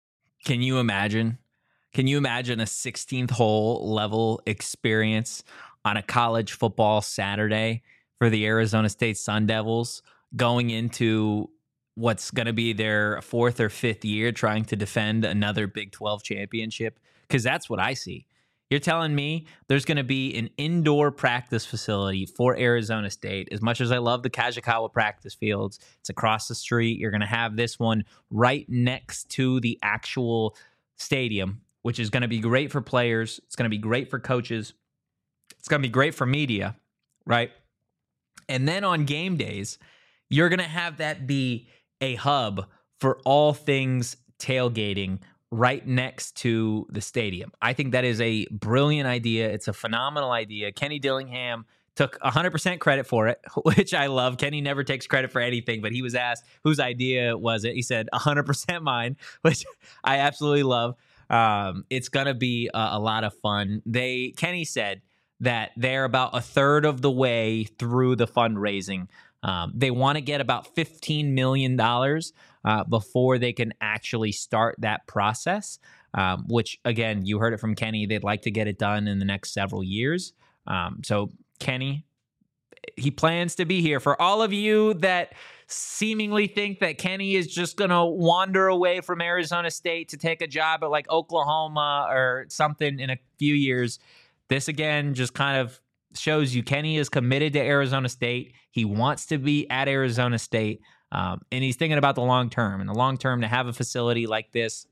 Can you imagine? Can you imagine a sixteenth hole level experience on a college football Saturday for the Arizona State Sun Devils going into what's going to be their fourth or fifth year trying to defend another Big twelve championship? Because that's what I see. You're telling me there's going to be an indoor practice facility for Arizona State. As much as I love the Kajikawa practice fields, it's across the street. You're going to have this one right next to the actual stadium, which is going to be great for players. It's going to be great for coaches. It's going to be great for media, right? And then on game days, you're going to have that be a hub for all things tailgating right next to the stadium. I think that is a brilliant idea. It's a phenomenal idea. Kenny Dillingham took one hundred percent credit for it, which I love. Kenny never takes credit for anything, but he was asked whose idea was it. He said one hundred percent mine, which I absolutely love. Um, it's going to be a, a lot of fun. They Kenny said that they're about a third of the way through the fundraising. Um, they want to get about fifteen million dollars uh, before they can actually start that process, um, which, again, you heard it from Kenny. They'd like to get it done in the next several years. Um, so, Kenny, he plans to be here. For all of you that seemingly think that Kenny is just going to wander away from Arizona State to take a job at, like, Oklahoma or something in a few years, this, again, just kind of shows you Kenny is committed to Arizona State. He wants to be at Arizona State, um, and he's thinking about the long term. And the long term, to have a facility like this,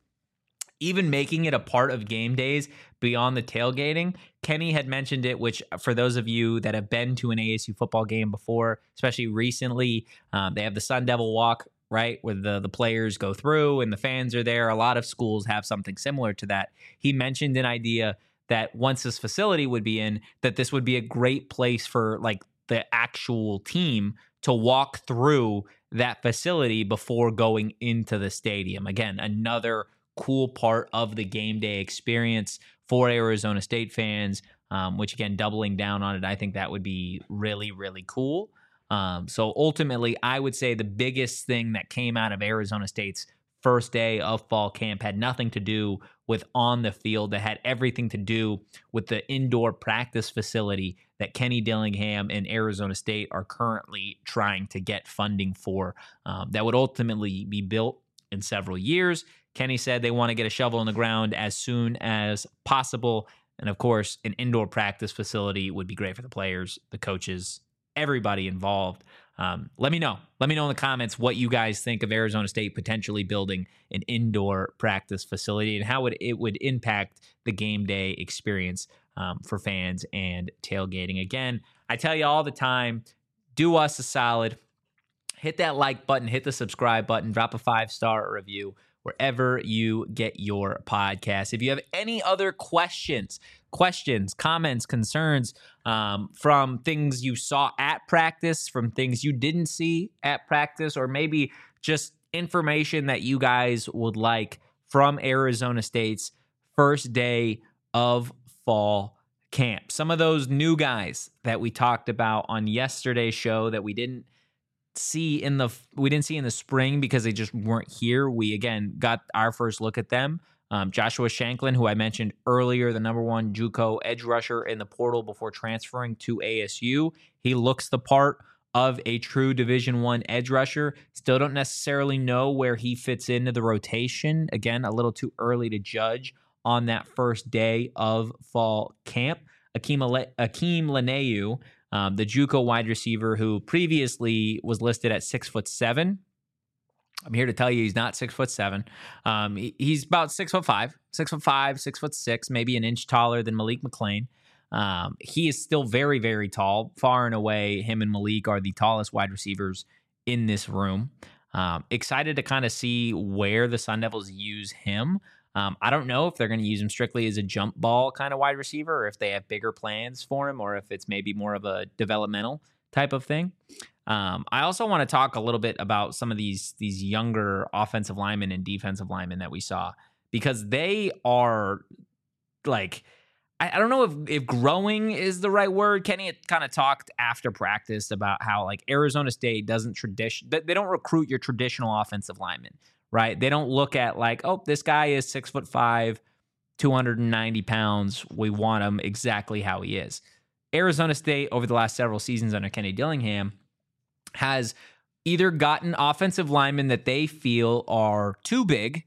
even making it a part of game days beyond the tailgating. Kenny had mentioned it, which for those of you that have been to an A S U football game before, especially recently, um, they have the Sun Devil Walk, right, where the, the players go through and the fans are there. A lot of schools have something similar to that. He mentioned an idea that once this facility would be in, that this would be a great place for like the actual team to walk through that facility before going into the stadium. Again, another cool part of the game day experience for Arizona State fans, um, which again, doubling down on it, I think that would be really, really cool. Um, so ultimately, I would say the biggest thing that came out of Arizona State's first day of fall camp had nothing to do with on the field. That had everything to do with the indoor practice facility that Kenny Dillingham and Arizona State are currently trying to get funding for. Um, that would ultimately be built in several years. Kenny said they want to get a shovel in the ground as soon as possible. And of course, an indoor practice facility would be great for the players, the coaches, everybody involved. Um, let me know. Let me know in the comments what you guys think of Arizona State potentially building an indoor practice facility and how it, it would impact the game day experience um, for fans and tailgating. Again, I tell you all the time, do us a solid. Hit that like button, hit the subscribe button, drop a five-star review wherever you get your podcast. If you have any other questions, questions, comments, concerns um, from things you saw at practice, from things you didn't see at practice, or maybe just information that you guys would like from Arizona State's first day of fall camp. Some of those new guys that we talked about on yesterday's show that we didn't see in the we didn't see in the spring because they just weren't here. We again got our first look at them. Um, Joshua Shanklin, who I mentioned earlier, the number one JUCO edge rusher in the portal before transferring to A S U. He looks the part of a true Division One edge rusher. Still don't necessarily know where he fits into the rotation. Again, a little too early to judge on that first day of fall camp. Akeem, Ale- Akeem Laneu, um, the JUCO wide receiver who previously was listed at six foot seven. I'm here to tell you he's not six foot seven. Um, he, he's about six foot five, six foot five, six foot six, maybe an inch taller than Malik McClain. Um, he is still very, very tall. Far and away, him and Malik are the tallest wide receivers in this room. Um, excited to kind of see where the Sun Devils use him. Um, I don't know if they're going to use him strictly as a jump ball kind of wide receiver, or if they have bigger plans for him, or if it's maybe more of a developmental type of thing. Um, I also want to talk a little bit about some of these these younger offensive linemen and defensive linemen that we saw, because they are like, I, I don't know if, if growing is the right word. Kenny had kind of talked after practice about how like Arizona State doesn't tradition, they don't recruit your traditional offensive linemen, right? They don't look at like, oh, this guy is six foot five, two hundred ninety pounds. We want him exactly how he is. Arizona State over the last several seasons under Kenny Dillingham has either gotten offensive linemen that they feel are too big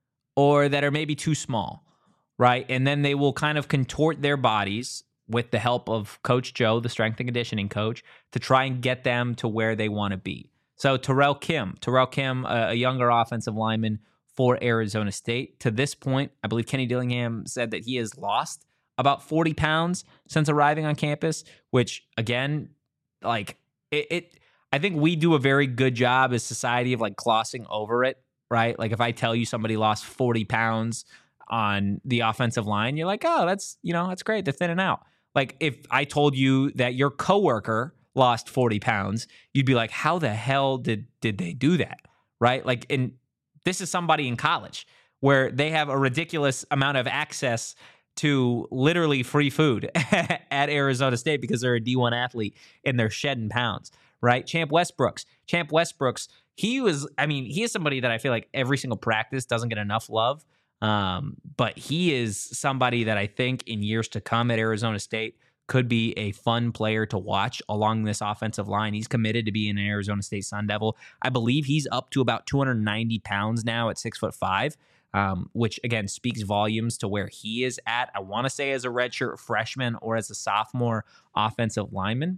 or that are maybe too small, right? And then they will kind of contort their bodies with the help of Coach Joe, the strength and conditioning coach, to try and get them to where they want to be. So Terrell Kim, Terrell Kim, a, a younger offensive lineman for Arizona State. To this point, I believe Kenny Dillingham said that he has lost about forty pounds since arriving on campus, which again, like it, it I think we do a very good job as society of like glossing over it, right? Like if I tell you somebody lost forty pounds on the offensive line, you're like, oh, that's, you know, that's great. They're thinning out. Like if I told you that your coworker lost forty pounds, you'd be like, how the hell did, did they do that? Right? Like, and this is somebody in college where they have a ridiculous amount of access to literally free food at Arizona State because they're a D one athlete and they're shedding pounds, right? Champ Westbrooks. Champ Westbrooks, he was, I mean, he is somebody that I feel like every single practice doesn't get enough love. Um, but he is somebody that I think in years to come at Arizona State could be a fun player to watch along this offensive line. He's committed to being an Arizona State Sun Devil. I believe he's up to about two hundred ninety pounds now at six foot five. Um, which, again, speaks volumes to where he is at. I want to say as a redshirt freshman or as a sophomore offensive lineman.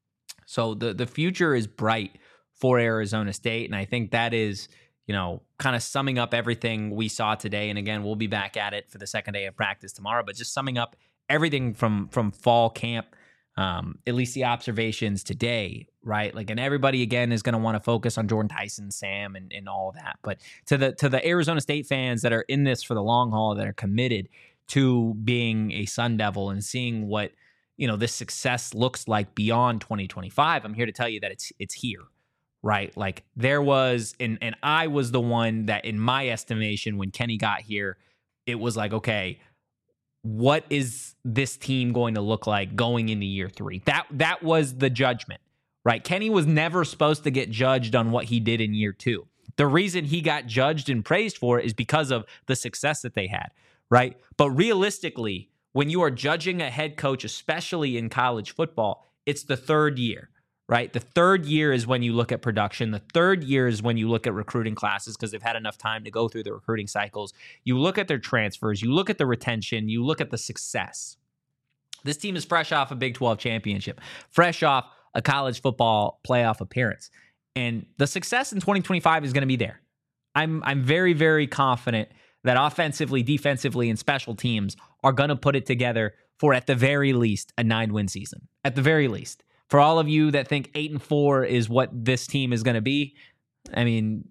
So the, the future is bright for Arizona State, and I think that is, you know, kind of summing up everything we saw today. And, again, we'll be back at it for the second day of practice tomorrow, but just summing up everything from, from fall camp, um, at least the observations today, right? Like, and everybody again is going to want to focus on Jordan Tyson, Sam, and, and all of that. But to the to the Arizona State fans that are in this for the long haul, that are committed to being a Sun Devil and seeing what, you know, this success looks like beyond twenty twenty-five. I'm here to tell you that it's it's here, right? Like there was, and and I was the one that, in my estimation, when Kenny got here, it was like, okay, what is this team going to look like going into year three? That that was the judgment, right? Kenny was never supposed to get judged on what he did in year two. The reason he got judged and praised for it is because of the success that they had, right? But realistically, when you are judging a head coach, especially in college football, it's the third year, right? The third year is when you look at production. The third year is when you look at recruiting classes because they've had enough time to go through the recruiting cycles. You look at their transfers. You look at the retention. You look at the success. This team is fresh off a Big twelve championship, fresh off a college football playoff appearance. And the success in twenty twenty-five is going to be there. I'm I'm very, very confident that offensively, defensively, and special teams are going to put it together for, at the very least, a nine-win season. At the very least. For all of you that think eight and four is what this team is going to be, I mean,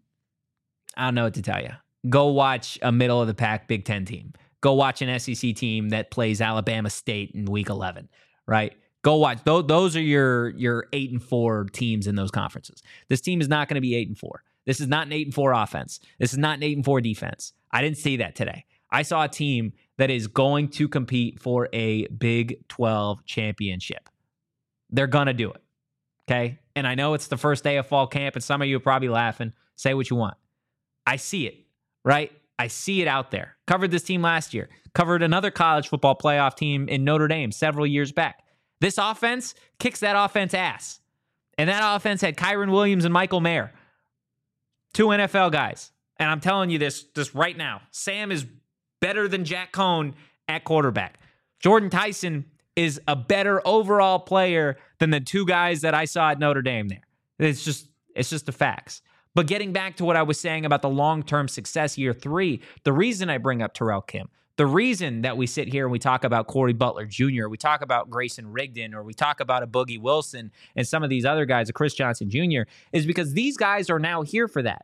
I don't know what to tell you. Go watch a middle-of-the-pack Big Ten team. Go watch an S E C team that plays Alabama State in Week eleven, right? Go watch. Those, those are your, your eight and four teams in those conferences. This team is not going to be eight and four. This is not an eight and four offense. This is not an eight and four defense. I didn't see that today. I saw a team that is going to compete for a Big twelve championship. They're going to do it, okay? And I know it's the first day of fall camp, and some of you are probably laughing. Say what you want. I see it, right? I see it out there. Covered this team last year. Covered another college football playoff team in Notre Dame several years back. This offense kicks that offense ass. And that offense had Kyron Williams and Michael Mayer, two N F L guys. And I'm telling you this, this right now. Sam is better than Jack Cohn at quarterback. Jordan Tyson is a better overall player than the two guys that I saw at Notre Dame there. It's just, it's just the facts. But getting back to what I was saying about the long-term success year three, the reason I bring up Terrell Kim, the reason that we sit here and we talk about Corey Butler Junior, we talk about Grayson Rigdon, or we talk about a Boogie Wilson and some of these other guys, a Chris Johnson Junior, is because these guys are now here for that.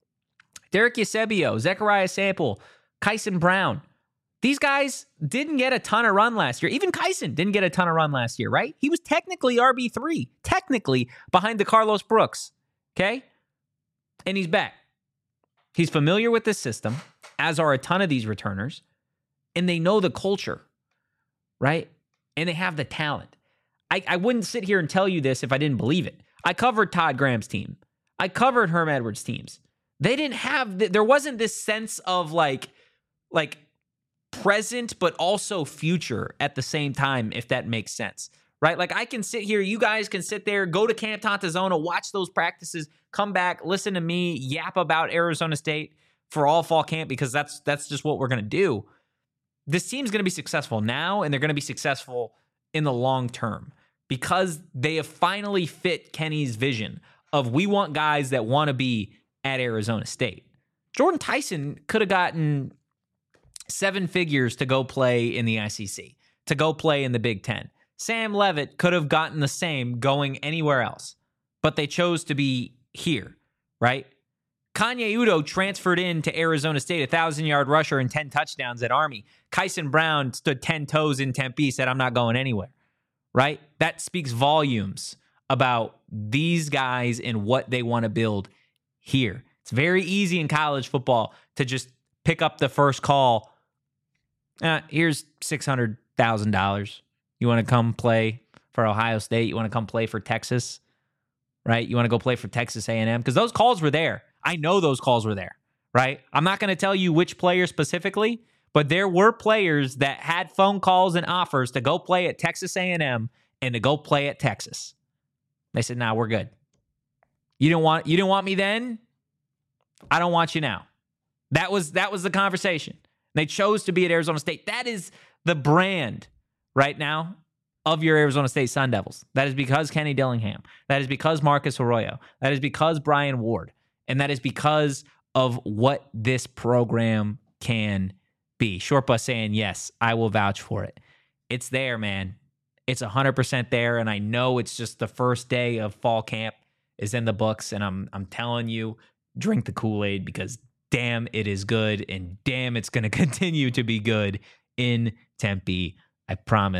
Derek Eusebio, Zechariah Sample, Kyson Brown. These guys didn't get a ton of run last year. Even Kyson didn't get a ton of run last year, right? He was technically R B three, technically behind the Carlos Brooks, okay? And he's back. He's familiar with this system, as are a ton of these returners, and they know the culture, right? And they have the talent. I, I wouldn't sit here and tell you this if I didn't believe it. I covered Todd Graham's team. I covered Herm Edwards' teams. They didn't have, the, there wasn't this sense of like, like present, but also future at the same time, if that makes sense, right? Like I can sit here, you guys can sit there, go to Camp Tontozona, watch those practices, come back, listen to me yap about Arizona State for all fall camp, because that's that's just what we're going to do. This team's going to be successful now, and they're going to be successful in the long term because they have finally fit Kenny's vision of we want guys that want to be at Arizona State. Jordan Tyson could have gotten seven figures to go play in the S E C, to go play in the Big Ten. Sam Levitt could have gotten the same going anywhere else, but they chose to be here, right? Kanye Udo transferred in to Arizona State, a thousand-yard rusher and ten touchdowns at Army. Kyson Brown stood ten toes in Tempe, said, I'm not going anywhere, right? That speaks volumes about these guys and what they want to build here. It's very easy in college football to just pick up the first call. Uh, here's six hundred thousand dollars. You want to come play for Ohio State? You want to come play for Texas, right? You want to go play for Texas A and M? Because those calls were there. I know those calls were there, right? I'm not going to tell you which player specifically, but there were players that had phone calls and offers to go play at Texas A and M and to go play at Texas. They said, nah, we're good. You didn't want you didn't want me then? I don't want you now. That was that was the conversation. They chose to be at Arizona State. That is the brand right now of your Arizona State Sun Devils. That is because Kenny Dillingham. That is because Marcus Arroyo. That is because Brian Ward. And that is because of what this program can be. Short Bus saying, yes, I will vouch for it. It's there, man. It's one hundred percent there. And I know it's just the first day of fall camp is in the books. And I'm I'm telling you, drink the Kool-Aid because damn, it is good. And damn, it's going to continue to be good in Tempe. I promise.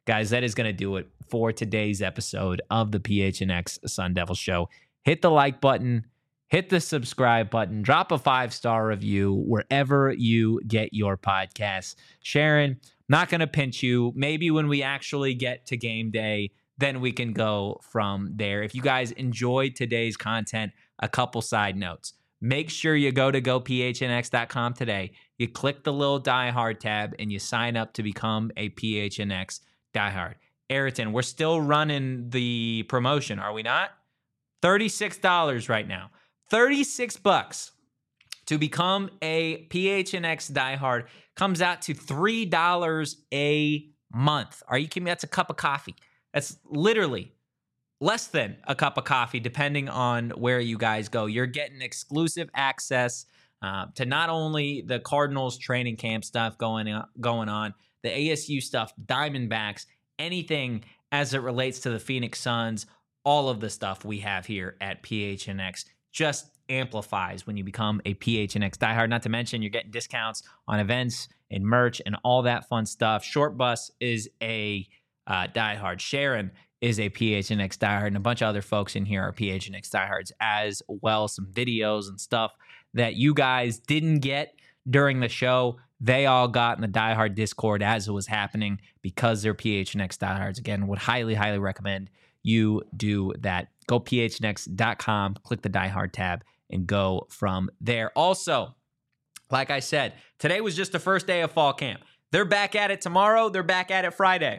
Guys, that is going to do it for today's episode of the P H N X Sun Devil Show. Hit the like button, hit the subscribe button, drop a five-star review wherever you get your podcasts. Sharon, not going to pinch you. Maybe when we actually get to game day, then we can go from there. If you guys enjoyed today's content, a couple side notes. Make sure you go to go P H N X dot com today. You click the little Die Hard tab and you sign up to become a P H N X Die Hard. Ayrton, we're still running the promotion, are we not? thirty-six dollars right now. thirty-six bucks to become a P H N X Die Hard comes out to three dollars a month. Are you kidding me? That's a cup of coffee. That's literally less than a cup of coffee, depending on where you guys go. You're getting exclusive access uh, to not only the Cardinals training camp stuff going on, going on, the A S U stuff, Diamondbacks, anything as it relates to the Phoenix Suns, all of the stuff we have here at P H N X just amplifies when you become a P H N X diehard. Not to mention you're getting discounts on events and merch and all that fun stuff. Short Bus is a uh, diehard. Sharon is a P H N X diehard, and a bunch of other folks in here are P H N X diehards as well. Some videos and stuff that you guys didn't get during the show, they all got in the diehard Discord as it was happening because they're P H N X diehards. Again, would highly, highly recommend you do that. Go P H N X dot com, click the diehard tab, and go from there. Also, like I said, today was just the first day of fall camp. They're back at it tomorrow. They're back at it Friday.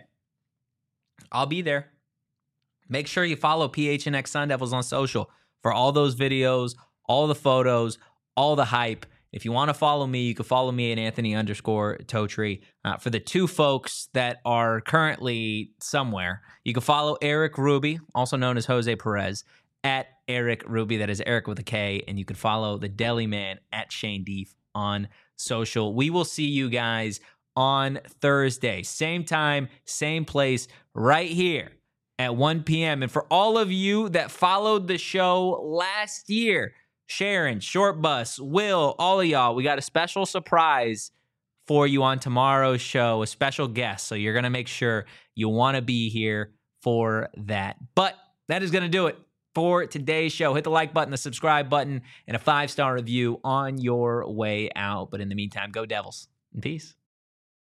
I'll be there. Make sure you follow P H N X Sun Devils on social for all those videos, all the photos, all the hype. If you want to follow me, you can follow me at Anthony underscore Totri. Uh, for the two folks that are currently somewhere, you can follow Eric Ruby, also known as Jose Perez, at Eric Ruby. That is Eric with a K. And you can follow the Deli Man at Shane Deef on social. We will see you guys on Thursday. Same time, same place, right here at one p.m. And for all of you that followed the show last year, Sharon, Short Bus, Will, all of y'all, we got a special surprise for you on tomorrow's show, a special guest. So you're going to make sure you want to be here for that. But that is going to do it for today's show. Hit the like button, the subscribe button, and a five-star review on your way out. But in the meantime, go Devils and peace.